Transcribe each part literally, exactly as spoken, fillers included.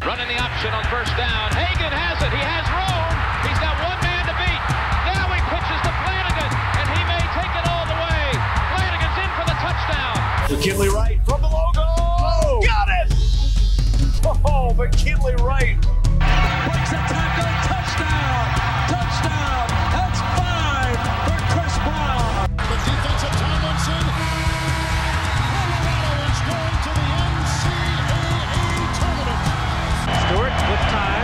Running the option on first down. Hagan has it. He has room. He's got one man to beat. Now he pitches to Flanagan, and he may take it all the way. Flanagan's in for the touchdown. McKinley Wright from the logo. Oh, got it! Oh, McKinley Wright. Breaks a tackle. Touchdown. Touchdown. That's five for Chris Brown. The defensive Tomlinson. Colorado is going to the N C double A tournament. Stewart with time.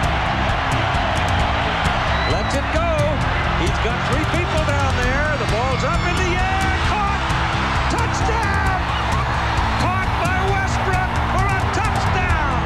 Lets it go. He's got three people down there. The ball's up in the air. Caught. Touchdown. Caught by Westbrook for a touchdown.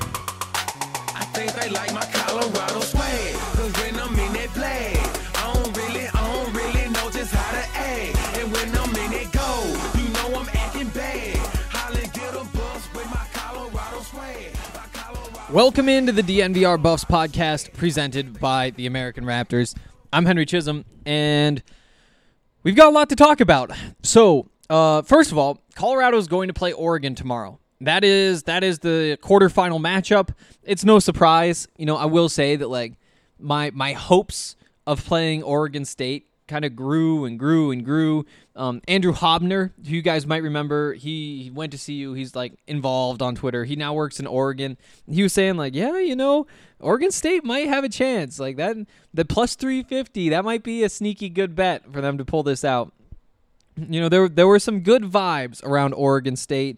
I think they like my Colorado swag. Cause when I'm in that play, I don't really, I don't really know just how to act. And when I'm in it go, you know I'm acting bad. Holly get a bus with my Colorado swag. My Colorado Welcome into the D N V R Buffs podcast presented by the American Raptors. I'm Henry Chisholm, and we've got a lot to talk about. So, uh, first of all, Colorado is going to play Oregon tomorrow. That is that is the quarterfinal matchup. It's no surprise. You know, I will say that like my my hopes of playing Oregon State kind of grew and grew and grew. Um, Andrew Hobner, who you guys might remember, he, he went to C U. He's like involved on Twitter. He now works in Oregon. He was saying like, yeah, you know, Oregon State might have a chance. Like that, the plus three fifty, that might be a sneaky good bet for them to pull this out. You know, there there were some good vibes around Oregon State.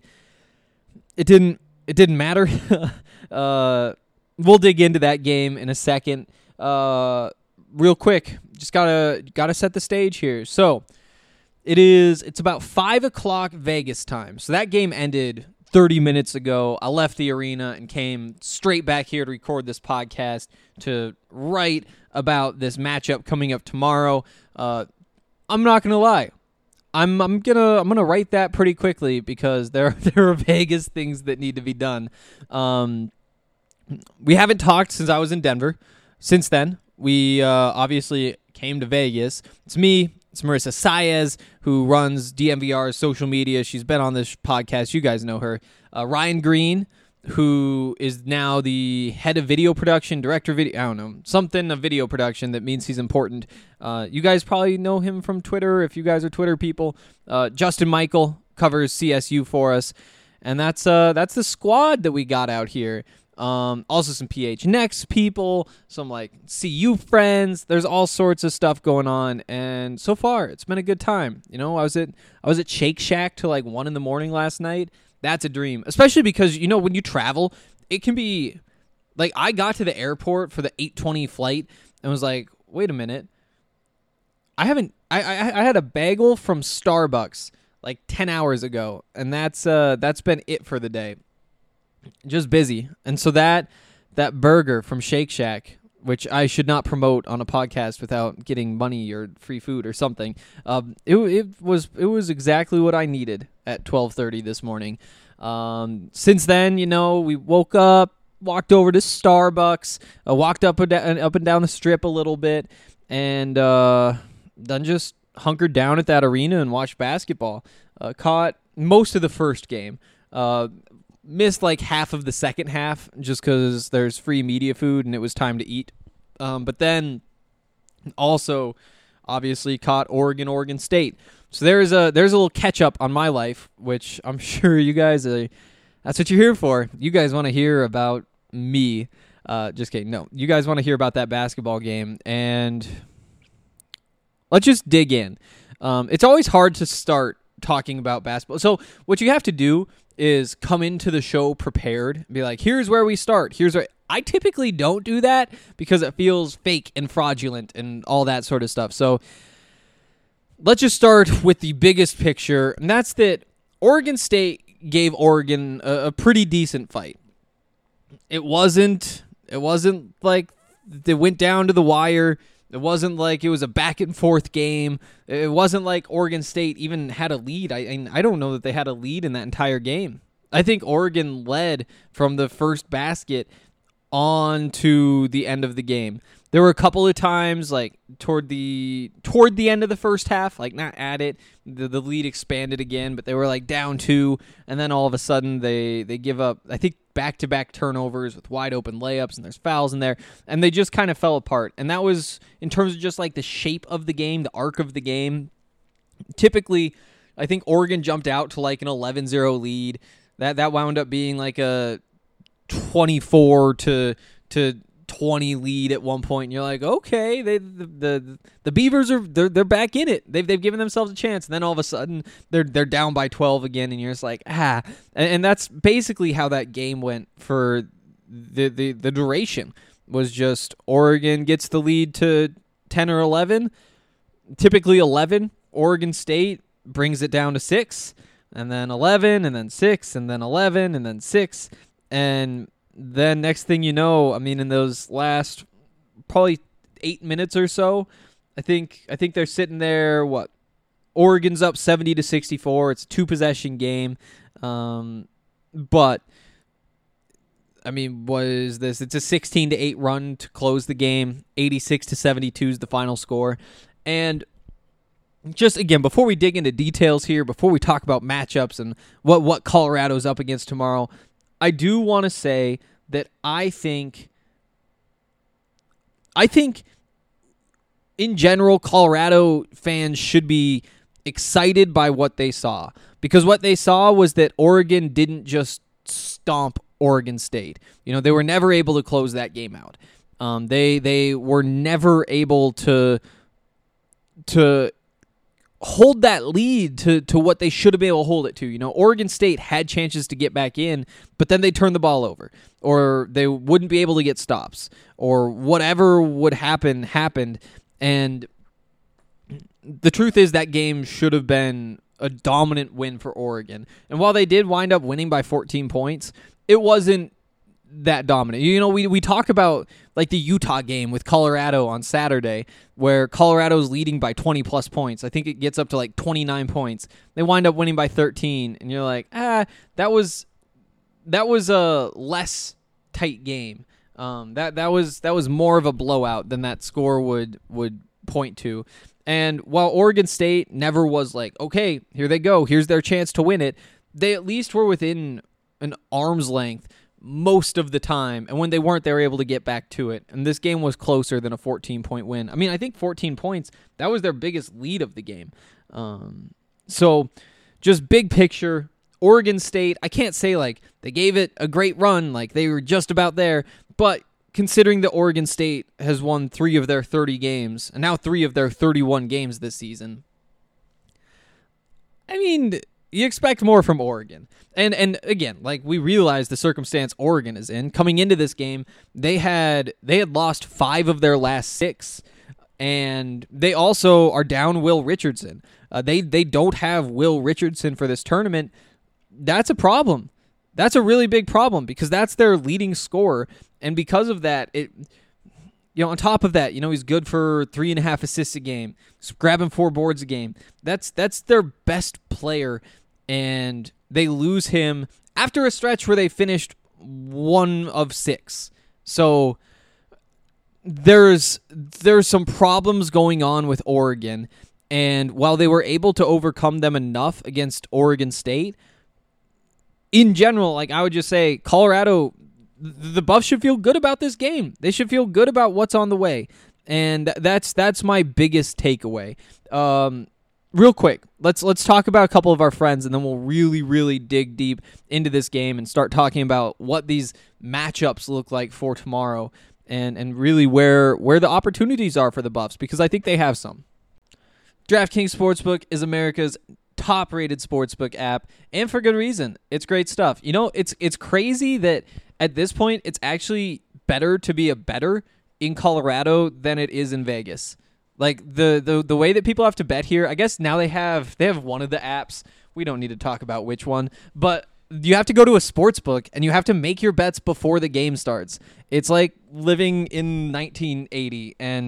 It didn't it didn't matter. uh, we'll dig into that game in a second. Uh, real quick, just gotta gotta set the stage here. So it is it's about five o'clock Vegas time. So that game ended thirty minutes ago. I left the arena and came straight back here to record this podcast to write about this matchup coming up tomorrow. Uh, I'm not gonna lie. I'm I'm gonna I'm gonna write that pretty quickly because there there are Vegas things that need to be done. Um, we haven't talked since I was in Denver. Since then, we uh, obviously came to Vegas. It's me. It's Marissa Saez, who runs D M V R's social media. She's been on this podcast. You guys know her. Uh, Ryan Green, who is now the head of video production, director of video, I don't know, something of video production that means he's important. Uh, you guys probably know him from Twitter if you guys are Twitter people. Uh, Justin Michael covers C S U for us. And that's uh, that's the squad that we got out here. Um, also some P H Next people, some like C U friends. There's all sorts of stuff going on, and so far it's been a good time. You know, I was at I was at Shake Shack till like one in the morning last night. That's a dream, especially because you know when you travel, it can be like I got to the airport for the eight twenty flight and was like, wait a minute, I haven't I I, I had a bagel from Starbucks like ten hours ago, and that's uh that's been it for the day. Just busy. And so that that burger from Shake Shack, which I should not promote on a podcast without getting money or free food or something, um, it, it was it was exactly what I needed at twelve thirty this morning. Um, since then, you know, we woke up, walked over to Starbucks, uh, walked up and, down, up and down the strip a little bit, and uh, then just hunkered down at that arena and watched basketball. Uh, caught most of the first game. Uh, Missed like half of the second half just because there's free media food and it was time to eat. Um, but then also obviously caught Oregon, Oregon State. So there's a there's a little catch up on my life, which I'm sure you guys, uh, that's what you're here for. You guys want to hear about me. Uh, just kidding. No, you guys want to hear about that basketball game. And let's just dig in. Um, it's always hard to start talking about basketball. So what you have to do is come into the show prepared and be like, here's where we start. Here's where I typically don't do that because it feels fake and fraudulent and all that sort of stuff. So let's just start with the biggest picture, and that's that Oregon State gave Oregon a, a pretty decent fight. It wasn't it wasn't like they went down to the wire. It wasn't like it was a back and forth game. It wasn't like Oregon State even had a lead. I I don't know that they had a lead in that entire game. I think Oregon led from the first basket on to the end of the game. There were a couple of times, like toward the toward the end of the first half, like not at it, the, the lead expanded again, but they were like down two, and then all of a sudden they they give up, I think, back-to-back turnovers with wide open layups, and there's fouls in there, and they just kind of fell apart. And that was, in terms of just like the shape of the game, the arc of the game, typically, I think Oregon jumped out to like an eleven zero lead. That that wound up being like a twenty-four to twenty lead at one point, and you're like, okay, they the the, the Beavers are they're they're back in it. They've they've given themselves a chance, and then all of a sudden they're they're down by twelve again, and you're just like, ah, and, and that's basically how that game went for the the the duration. Was just Oregon gets the lead to ten or eleven, typically eleven. Oregon State brings it down to six, and then eleven, and then six, and then eleven, and then six, and then next thing you know, I mean, in those last probably eight minutes or so, I think I think they're sitting there. What? Oregon's up seventy to sixty-four. It's a two possession game, um, but I mean, what is this? It's a sixteen to eight run to close the game. eighty-six to seventy-two is the final score, and just again, before we dig into details here, before we talk about matchups and what what Colorado's up against tomorrow, I do want to say that I think, I think in general, Colorado fans should be excited by what they saw, because what they saw was that Oregon didn't just stomp Oregon State. You know, they were never able to close that game out. Um, they they were never able to to. hold that lead to, to what they should have been able to hold it to. You know, Oregon State had chances to get back in, but then they turned the ball over, or they wouldn't be able to get stops, or whatever would happen happened. And the truth is that game should have been a dominant win for Oregon. And while they did wind up winning by fourteen points, it wasn't that dominant. You know, we we talk about like the Utah game with Colorado on Saturday, where Colorado's leading by twenty plus points. I think it gets up to like twenty-nine points. They wind up winning by thirteen, and you're like, ah, that was that was a less tight game. Um, that that was that was more of a blowout than that score would would point to. And while Oregon State never was like, okay, here they go, here's their chance to win it, they at least were within an arm's length most of the time, and when they weren't, they were able to get back to it. And this game was closer than a fourteen-point win. I mean, I think fourteen points, that was their biggest lead of the game. Um, so, just big picture, Oregon State, I can't say, like, they gave it a great run, like, they were just about there, but considering that Oregon State has won three of their thirty games, and now three of their thirty-one games this season, I mean, you expect more from Oregon. And and again, like, we realize the circumstance Oregon is in. Coming into this game, they had they had lost five of their last six, and they also are down Will Richardson. Uh, they they don't have Will Richardson for this tournament. That's a problem. That's a really big problem, because that's their leading scorer, and because of that, it. You know, on top of that, you know, he's good for three and a half assists a game, grabbing four boards a game. That's that's their best player, and they lose him after a stretch where they finished one of six. So there's there's some problems going on with Oregon, and while they were able to overcome them enough against Oregon State, in general, like, I would just say, Colorado, the Buffs should feel good about this game. They should feel good about what's on the way, and that's that's my biggest takeaway. Um, real quick, let's let's talk about a couple of our friends, and then we'll really, really dig deep into this game and start talking about what these matchups look like for tomorrow, and and really where where the opportunities are for the Buffs, because I think they have some. DraftKings Sportsbook is America's top-rated sportsbook app, and for good reason. It's great stuff. You know, it's it's crazy that at this point, it's actually better to be a bettor in Colorado than it is in Vegas. Like, the, the the way that people have to bet here, I guess now they have they have one of the apps. We don't need to talk about which one, but you have to go to a sports book and you have to make your bets before the game starts. It's like living in nineteen eighty, and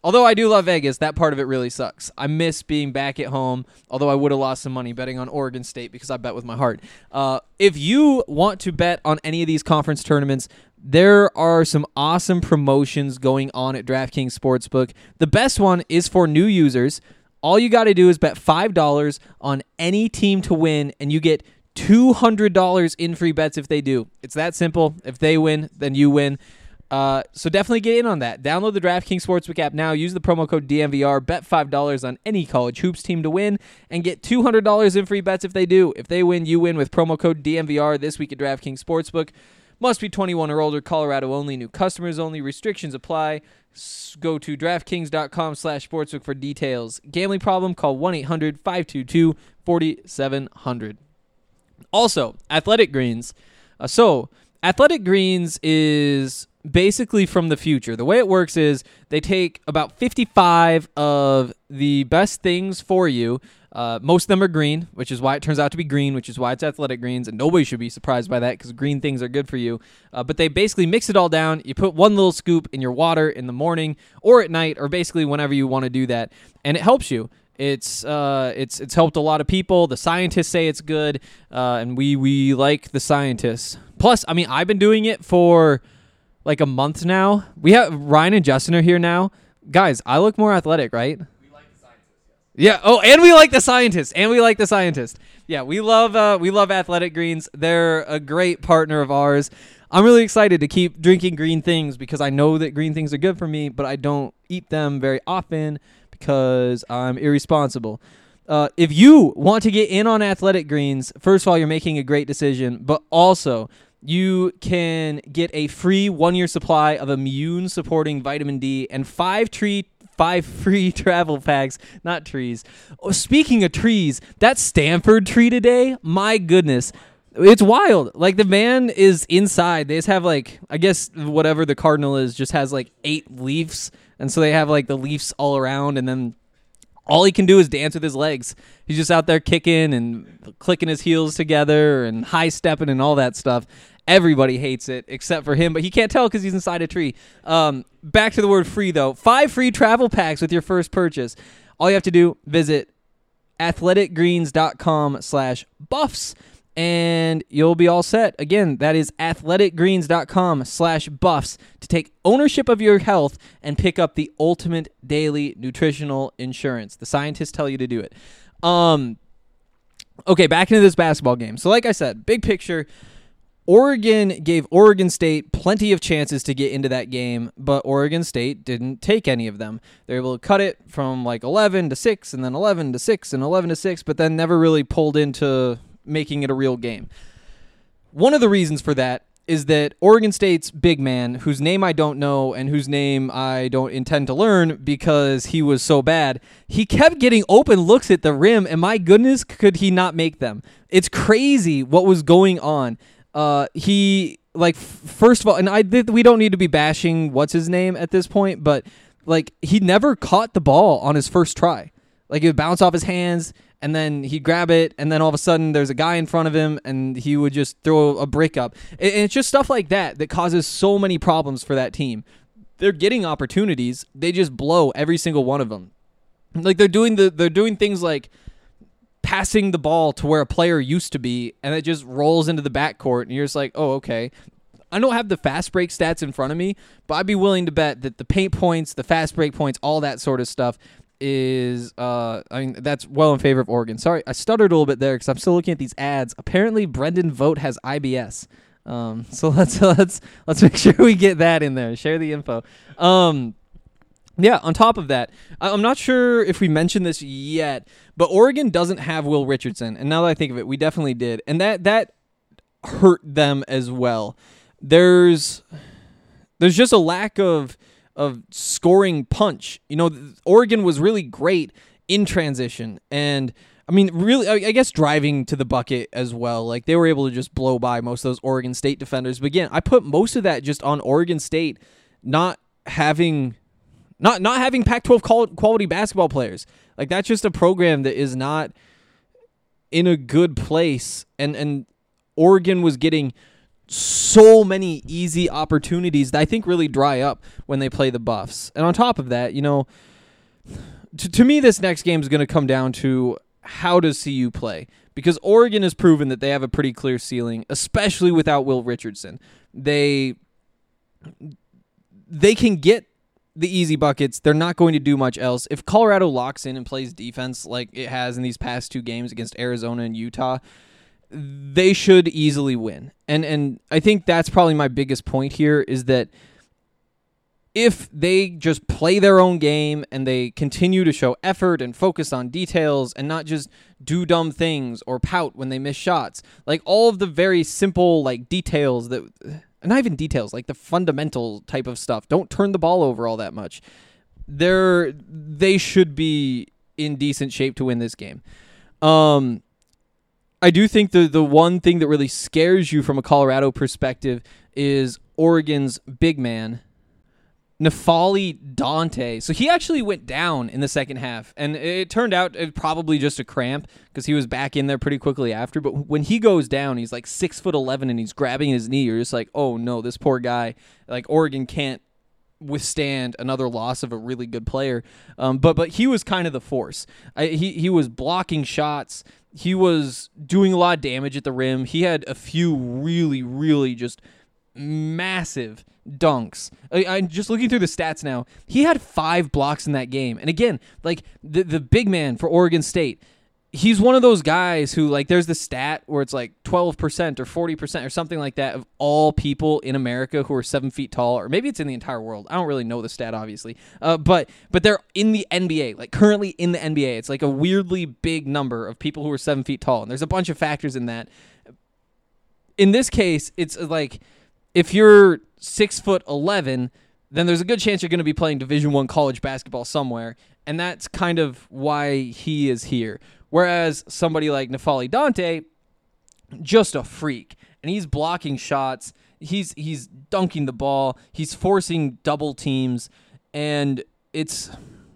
Although I do love Vegas, that part of it really sucks. I miss being back at home, although I would have lost some money betting on Oregon State because I bet with my heart. Uh, if you want to bet on any of these conference tournaments, there are some awesome promotions going on at DraftKings Sportsbook. The best one is for new users. All you got to do is bet five dollars on any team to win, and you get two hundred dollars in free bets if they do. It's that simple. If they win, then you win. Uh, so definitely get in on that. Download the DraftKings Sportsbook app now. Use the promo code D M V R. Bet five dollars on any college hoops team to win and get two hundred dollars in free bets if they do. If they win, you win with promo code D M V R this week at DraftKings Sportsbook. Must be twenty-one or older. Colorado only. New customers only. Restrictions apply. S- go to DraftKings.com slash sportsbook for details. Gambling problem? Call one eight hundred five two two four seven zero zero. Also, Athletic Greens. Uh, so, Athletic Greens is basically from the future. The way it works is they take about fifty-five of the best things for you. Uh, most of them are green, which is why it turns out to be green, which is why it's Athletic Greens, and nobody should be surprised by that because green things are good for you. Uh, but they basically mix it all down. You put one little scoop in your water in the morning or at night or basically whenever you want to do that, and it helps you. It's uh, it's it's helped a lot of people. The scientists say it's good, uh, and we we like the scientists. Plus, I mean, I've been doing it for like a month now. We have Ryan and Justin are here now. Guys, I look more athletic, right? We like the scientists. Yes. Yeah. Oh, and we like the scientists. And we like the scientists. Yeah, we love uh, we love Athletic Greens. They're a great partner of ours. I'm really excited to keep drinking green things because I know that green things are good for me, but I don't eat them very often because I'm irresponsible. Uh, if you want to get in on Athletic Greens, first of all, you're making a great decision, but also you can get a free one-year supply of immune-supporting vitamin D and five tree five free travel packs, not trees. Oh, speaking of trees, that Stanford tree today, my goodness, it's wild. Like, the man is inside. They just have, like, I guess whatever the cardinal is just has, like, eight leaves, and so they have, like, the leaves all around, and then all he can do is dance with his legs. He's just out there kicking and clicking his heels together and high-stepping and all that stuff. Everybody hates it except for him, but he can't tell because he's inside a tree. Um, back to the word free, though. Five free travel packs with your first purchase. All you have to do, visit athleticgreens.com slash buffs, and you'll be all set. Again, that is athleticgreens.com slash buffs to take ownership of your health and pick up the ultimate daily nutritional insurance. The scientists tell you to do it. Um, okay, back into this basketball game. So like I said, big picture, Oregon gave Oregon State plenty of chances to get into that game, but Oregon State didn't take any of them. They were able to cut it from like eleven to six and then eleven to six and eleven to six, but then never really pulled into making it a real game. One of the reasons for that is that Oregon State's big man, whose name I don't know and whose name I don't intend to learn because he was so bad, he kept getting open looks at the rim, and my goodness, could he not make them. It's crazy what was going on. Uh, he, like, f- first of all, and I th- we don't need to be bashing what's his name at this point, but, like, he never caught the ball on his first try. Like, it would bounce off his hands, and then he'd grab it, and then all of a sudden there's a guy in front of him, and he would just throw a brick up. And it's just stuff like that that causes so many problems for that team. They're getting opportunities. They just blow every single one of them. Like, they're doing the they're doing things like passing the ball to where a player used to be, and it just rolls into the backcourt, and you're just like, oh, okay. I don't have the fast break stats in front of me, but I'd be willing to bet that the paint points, the fast break points, all that sort of stuff is, uh, I mean, that's well in favor of Oregon. Sorry, I stuttered a little bit there because I'm still looking at these ads. Apparently, Brendan Vogt has I B S. Um, so let's let's let's make sure we get that in there. Share the info. Um, Yeah, on top of that, I'm not sure if we mentioned this yet, but Oregon doesn't have Will Richardson. And now that I think of it, we definitely did. And that that hurt them as well. There's there's just a lack of of scoring punch. You know, Oregon was really great in transition. And, I mean, really, I guess driving to the bucket as well. Like, they were able to just blow by most of those Oregon State defenders. But again, I put most of that just on Oregon State not having... Not not having Pac twelve quality basketball players. Like, that's just a program that is not in a good place. And and Oregon was getting so many easy opportunities that I think really dry up when they play the Buffs. And on top of that, you know, to, to me, this next game is going to come down to how does C U play? Because Oregon has proven that they have a pretty clear ceiling, especially without Will Richardson. They they can get the easy buckets. They're not going to do much else. If Colorado locks in and plays defense like it has in these past two games against Arizona and Utah, they should easily win. And and I think that's probably my biggest point here is that if they just play their own game and they continue to show effort and focus on details and not just do dumb things or pout when they miss shots, like all of the very simple like details that, not even details, like the fundamental type of stuff, don't turn the ball over all that much. They're, they should be in decent shape to win this game. Um, I do think the the one thing that really scares you from a Colorado perspective is Oregon's big man, N'Faly Dante. So he actually went down in the second half, and it turned out it probably just a cramp because he was back in there pretty quickly after. But when he goes down, he's like six foot eleven, and he's grabbing his knee. You're just like, oh no, this poor guy. Like Oregon can't withstand another loss of a really good player. Um, but but he was kind of the force. I, he he was blocking shots. He was doing a lot of damage at the rim. He had a few really really just massive dunks. I, I'm just looking through the stats now. He had five blocks in that game. And again, like the the big man for Oregon State, he's one of those guys who, like, there's the stat where it's like twelve percent or forty percent or something like that of all people in America who are seven feet tall, or maybe it's in the entire world. I don't really know the stat, obviously. Uh, but but they're in the N B A, like currently in the N B A. It's like a weirdly big number of people who are seven feet tall. And there's a bunch of factors in that. In this case, it's like, if you're six foot eleven, then there's a good chance you're going to be playing Division One college basketball somewhere, and that's kind of why he is here. Whereas somebody like N'Faly Dante, just a freak, and he's blocking shots, he's he's dunking the ball, he's forcing double teams, and it's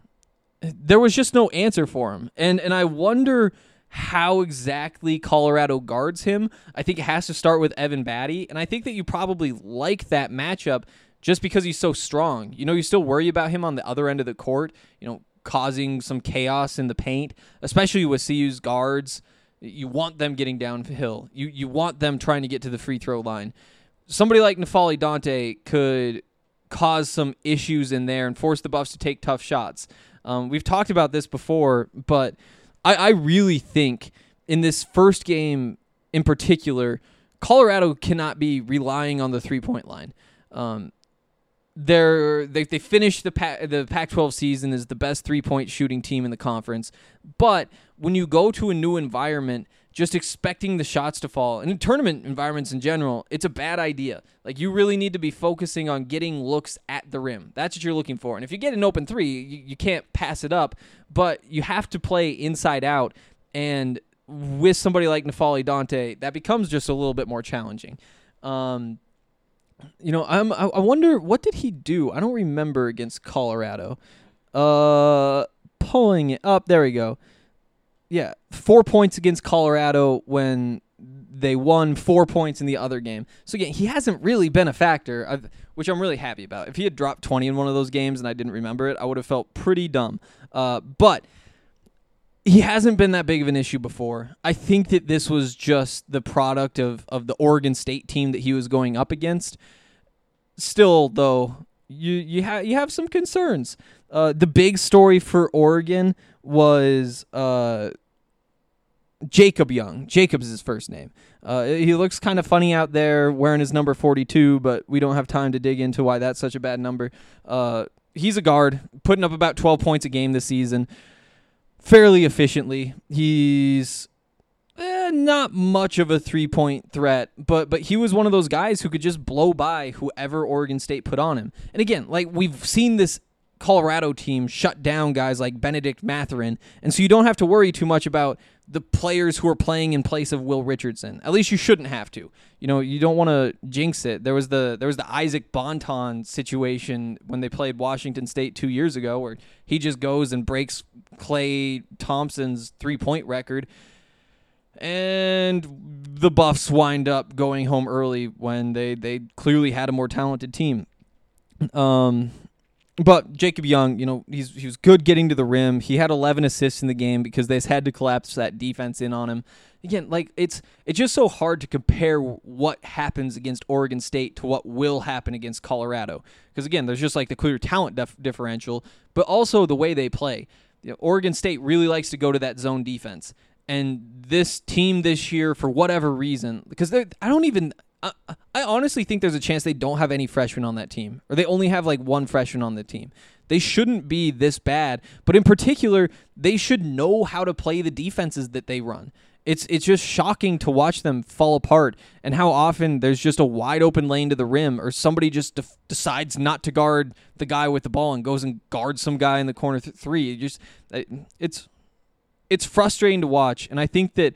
there was just no answer for him, and and I wonder how exactly Colorado guards him. I think it has to start with Evan Batty, and I think that you probably like that matchup just because he's so strong. You know, you still worry about him on the other end of the court, you know, causing some chaos in the paint, especially with C U's guards. You want them getting downhill. You you want them trying to get to the free throw line. Somebody like N'Faly Dante could cause some issues in there and force the Buffs to take tough shots. Um, we've talked about this before, but I, I really think in this first game in particular, Colorado cannot be relying on the three-point line. Um, they're, they they finished the pa- the Pac twelve season as the best three-point shooting team in the conference, but when you go to a new environment, just expecting the shots to fall, and in tournament environments in general, it's a bad idea. Like, you really need to be focusing on getting looks at the rim. That's what you're looking for. And if you get an open three, you, you can't pass it up, but you have to play inside out, and with somebody like N'Faly Dante, that becomes just a little bit more challenging. Um, you know, I'm, I, I wonder, what did he do? I don't remember against Colorado. Uh, pulling it up. There we go. Yeah, four points against Colorado when they won, four points in the other game. So again, he hasn't really been a factor, I've, which I'm really happy about. If he had dropped twenty in one of those games and I didn't remember it, I would have felt pretty dumb. Uh, but he hasn't been that big of an issue before. I think that this was just the product of, of the Oregon State team that he was going up against. Still, though, you you have you have some concerns. Uh, the big story for Oregon was uh, Jacob Young. Jacob's his first name. Uh, he looks kind of funny out there wearing his number forty-two, but we don't have time to dig into why that's such a bad number. Uh, he's a guard, putting up about twelve points a game this season, fairly efficiently. He's eh, not much of a three-point threat, but but he was one of those guys who could just blow by whoever Oregon State put on him. And again, like, we've seen this Colorado team shut down guys like Benedict Mathurin, and so you don't have to worry too much about the players who are playing in place of Will Richardson. At least you shouldn't have to. You know, you don't want to jinx it. There was the there was the Isaac Bonton situation when they played Washington State two years ago, where he just goes and breaks Klay Thompson's three-point record. and the Buffs wind up going home early when they, they clearly had a more talented team. Um, but Jacob Young, you know, he's he was good getting to the rim. He had eleven assists in the game because they had to collapse that defense in on him. Again, like it's it's just so hard to compare what happens against Oregon State to what will happen against Colorado. Because again, there's just like the clear talent dif- differential, but also the way they play. You know, Oregon State really likes to go to that zone defense. And this team this year, for whatever reason, because I don't even, I, I honestly think there's a chance they don't have any freshmen on that team, or they only have like one freshman on the team. They shouldn't be this bad, but in particular, they should know how to play the defenses that they run. It's it's just shocking to watch them fall apart, and how often there's just a wide open lane to the rim, or somebody just def- decides not to guard the guy with the ball and goes and guards some guy in the corner th- three. It just it's. It's frustrating to watch, and I think that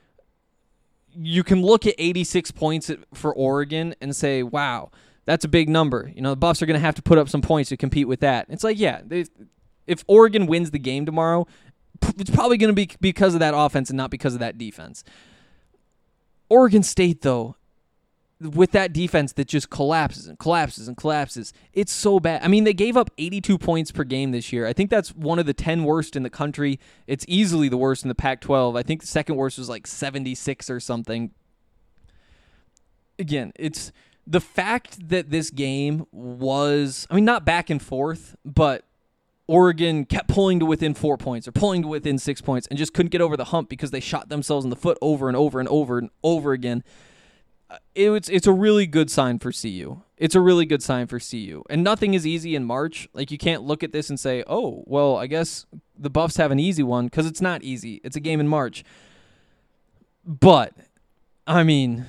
you can look at eighty-six points for Oregon and say, wow, that's a big number. You know, the Buffs are going to have to put up some points to compete with that. It's like, yeah, they, if Oregon wins the game tomorrow, it's probably going to be because of that offense and not because of that defense. Oregon State, though, with that defense that just collapses and collapses and collapses, it's so bad. I mean, they gave up eighty-two points per game this year. I think that's one of the ten worst in the country. It's easily the worst in the Pac twelve. I think the second worst was like seventy-six or something. Again, it's the fact that this game was, I mean, not back and forth, but Oregon kept pulling to within four points or pulling to within six points and just couldn't get over the hump because they shot themselves in the foot over and over and over and over again. It's it's a really good sign for C U. It's a really good sign for C U. And nothing is easy in March. Like, you can't look at this and say, oh, well, I guess the Buffs have an easy one, because it's not easy. It's a game in March. But, I mean,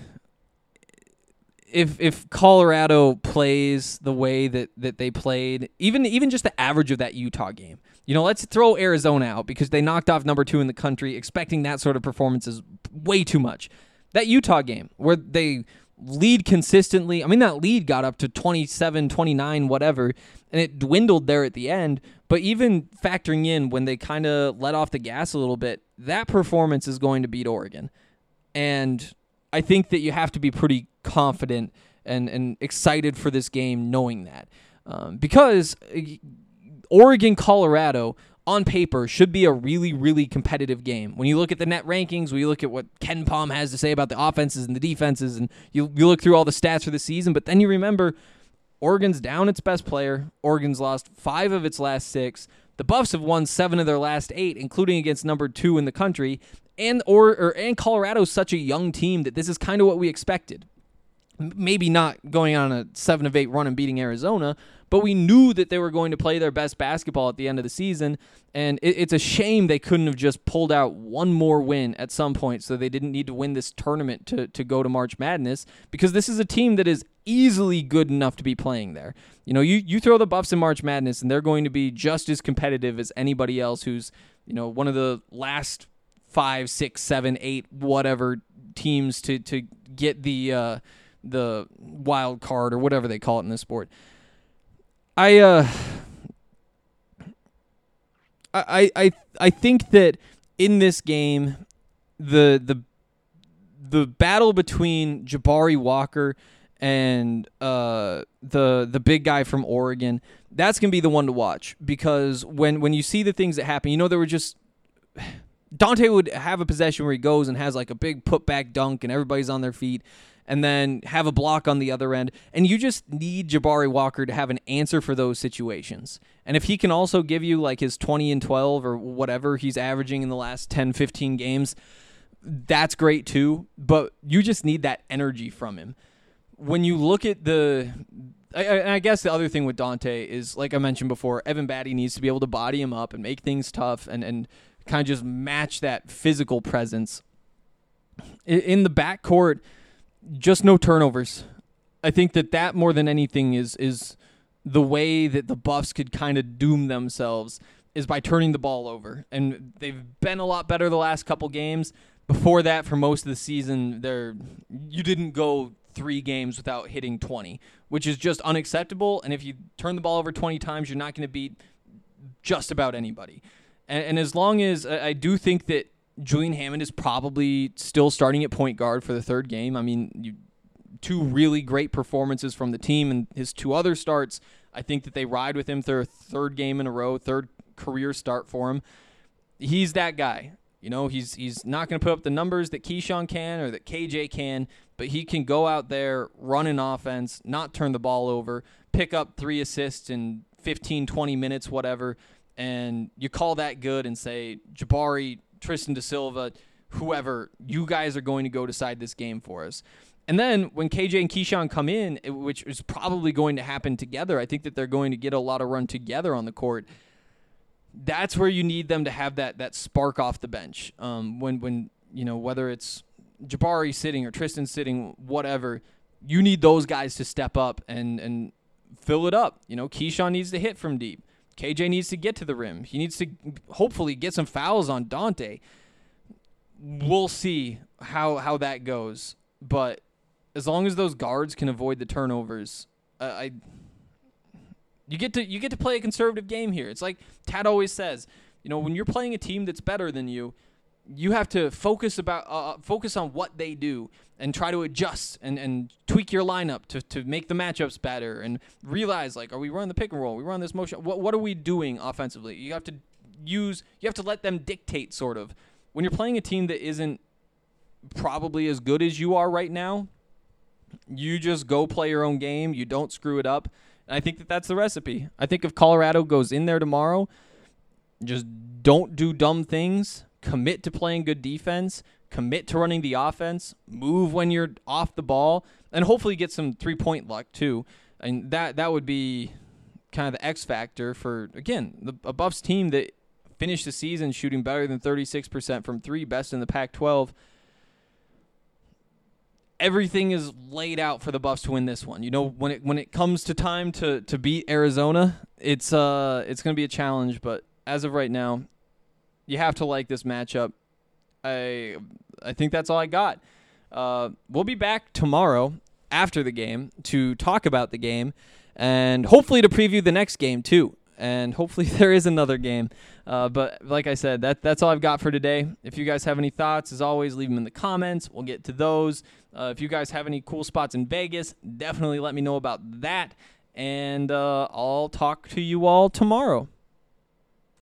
if if Colorado plays the way that, that they played, even even just the average of that Utah game, you know, let's throw Arizona out because they knocked off number two in the country. Expecting that sort of performance is way too much. That Utah game where they lead consistently, I mean, that lead got up to twenty-seven, twenty-nine, whatever, and it dwindled there at the end. But even factoring in when they kind of let off the gas a little bit, that performance is going to beat Oregon. And I think that you have to be pretty confident and, and excited for this game knowing that. Um, because Oregon, Colorado, on paper, should be a really, really competitive game. When you look at the net rankings, when you look at what Ken Pom has to say about the offenses and the defenses, and you, you look through all the stats for the season, but then you remember Oregon's down its best player. Oregon's lost five of its last six. The Buffs have won seven of their last eight, including against number two in the country. And or, or and Colorado's such a young team that this is kind of what we expected. Maybe not going on a seven of eight run and beating Arizona, but we knew that they were going to play their best basketball at the end of the season, and it, it's a shame they couldn't have just pulled out one more win at some point so they didn't need to win this tournament to, to go to March Madness, because this is a team that is easily good enough to be playing there. You know, you, you throw the Buffs in March Madness, and they're going to be just as competitive as anybody else who's, you know, one of the last five, six, seven, eight, whatever teams to, to get the uh, the wild card or whatever they call it in this sport. I uh, I I I think that in this game, the the the battle between Jabari Walker and uh the the big guy from Oregon, that's gonna be the one to watch, because when when you see the things that happen, you know, there were just Dante would have a possession where he goes and has like a big putback dunk and everybody's on their feet, and then have a block on the other end. And you just need Jabari Walker to have an answer for those situations. And if he can also give you like his twenty and twelve or whatever he's averaging in the last ten, fifteen games, that's great too. But you just need that energy from him. When you look at the... I, I guess the other thing with Dante is, like I mentioned before, Evan Batty needs to be able to body him up and make things tough and, and kind of just match that physical presence. In, in the backcourt, just no turnovers. I think that that more than anything is is the way that the Buffs could kind of doom themselves, is by turning the ball over. And they've been a lot better the last couple games. Before that, for most of the season, they're you didn't go three games without hitting twenty, which is just unacceptable. And if you turn the ball over twenty times, you're not going to beat just about anybody. And, and as long as I do think that Julian Hammond is probably still starting at point guard for the third game. I mean, you, two really great performances from the team, and his two other starts, I think that they ride with him their third game in a row, third career start for him. He's that guy. You know, he's he's not going to put up the numbers that Keyshawn can or that K J can, but he can go out there, run an offense, not turn the ball over, pick up three assists in fifteen, twenty minutes, whatever, and you call that good and say, Jabari, Tristan Da Silva, whoever, you guys are going to go decide this game for us. And then when K J and Keyshawn come in, which is probably going to happen together, I think that they're going to get a lot of run together on the court. That's where you need them to have that that spark off the bench. Um, when when you know whether it's Jabari sitting or Tristan sitting, whatever, you need those guys to step up and and fill it up. You know, Keyshawn needs to hit from deep. K J needs to get to the rim. He needs to hopefully get some fouls on Dante. We'll see how how that goes, but as long as those guards can avoid the turnovers, uh, I. You get to you get to play a conservative game here. It's like Tad always says, you know, when you're playing a team that's better than you, you have to focus about uh, focus on what they do and try to adjust and, and tweak your lineup to, to make the matchups better and realize, like, are we running the pick and roll? Are we run this motion? What what are we doing offensively? You have to use you have to let them dictate, sort of. When you're playing a team that isn't probably as good as you are right now, you just go play your own game. You don't screw it up. And I think that that's the recipe. I think if Colorado goes in there tomorrow, just don't do dumb things, commit to playing good defense, commit to running the offense, move when you're off the ball, and hopefully get some three-point luck too. And that that would be kind of the X factor for, again, the, a Buffs team that finished the season shooting better than thirty-six percent from three, best in the Pac twelve. Everything is laid out for the Buffs to win this one. You know, when it when it comes to time to, to beat Arizona, it's uh it's going to be a challenge. But as of right now, you have to like this matchup. I I think that's all I got. Uh, we'll be back tomorrow after the game to talk about the game and hopefully to preview the next game too. And hopefully there is another game. Uh, but like I said, that that's all I've got for today. If you guys have any thoughts, as always, leave them in the comments. We'll get to those. Uh, if you guys have any cool spots in Vegas, definitely let me know about that. And uh, I'll talk to you all tomorrow.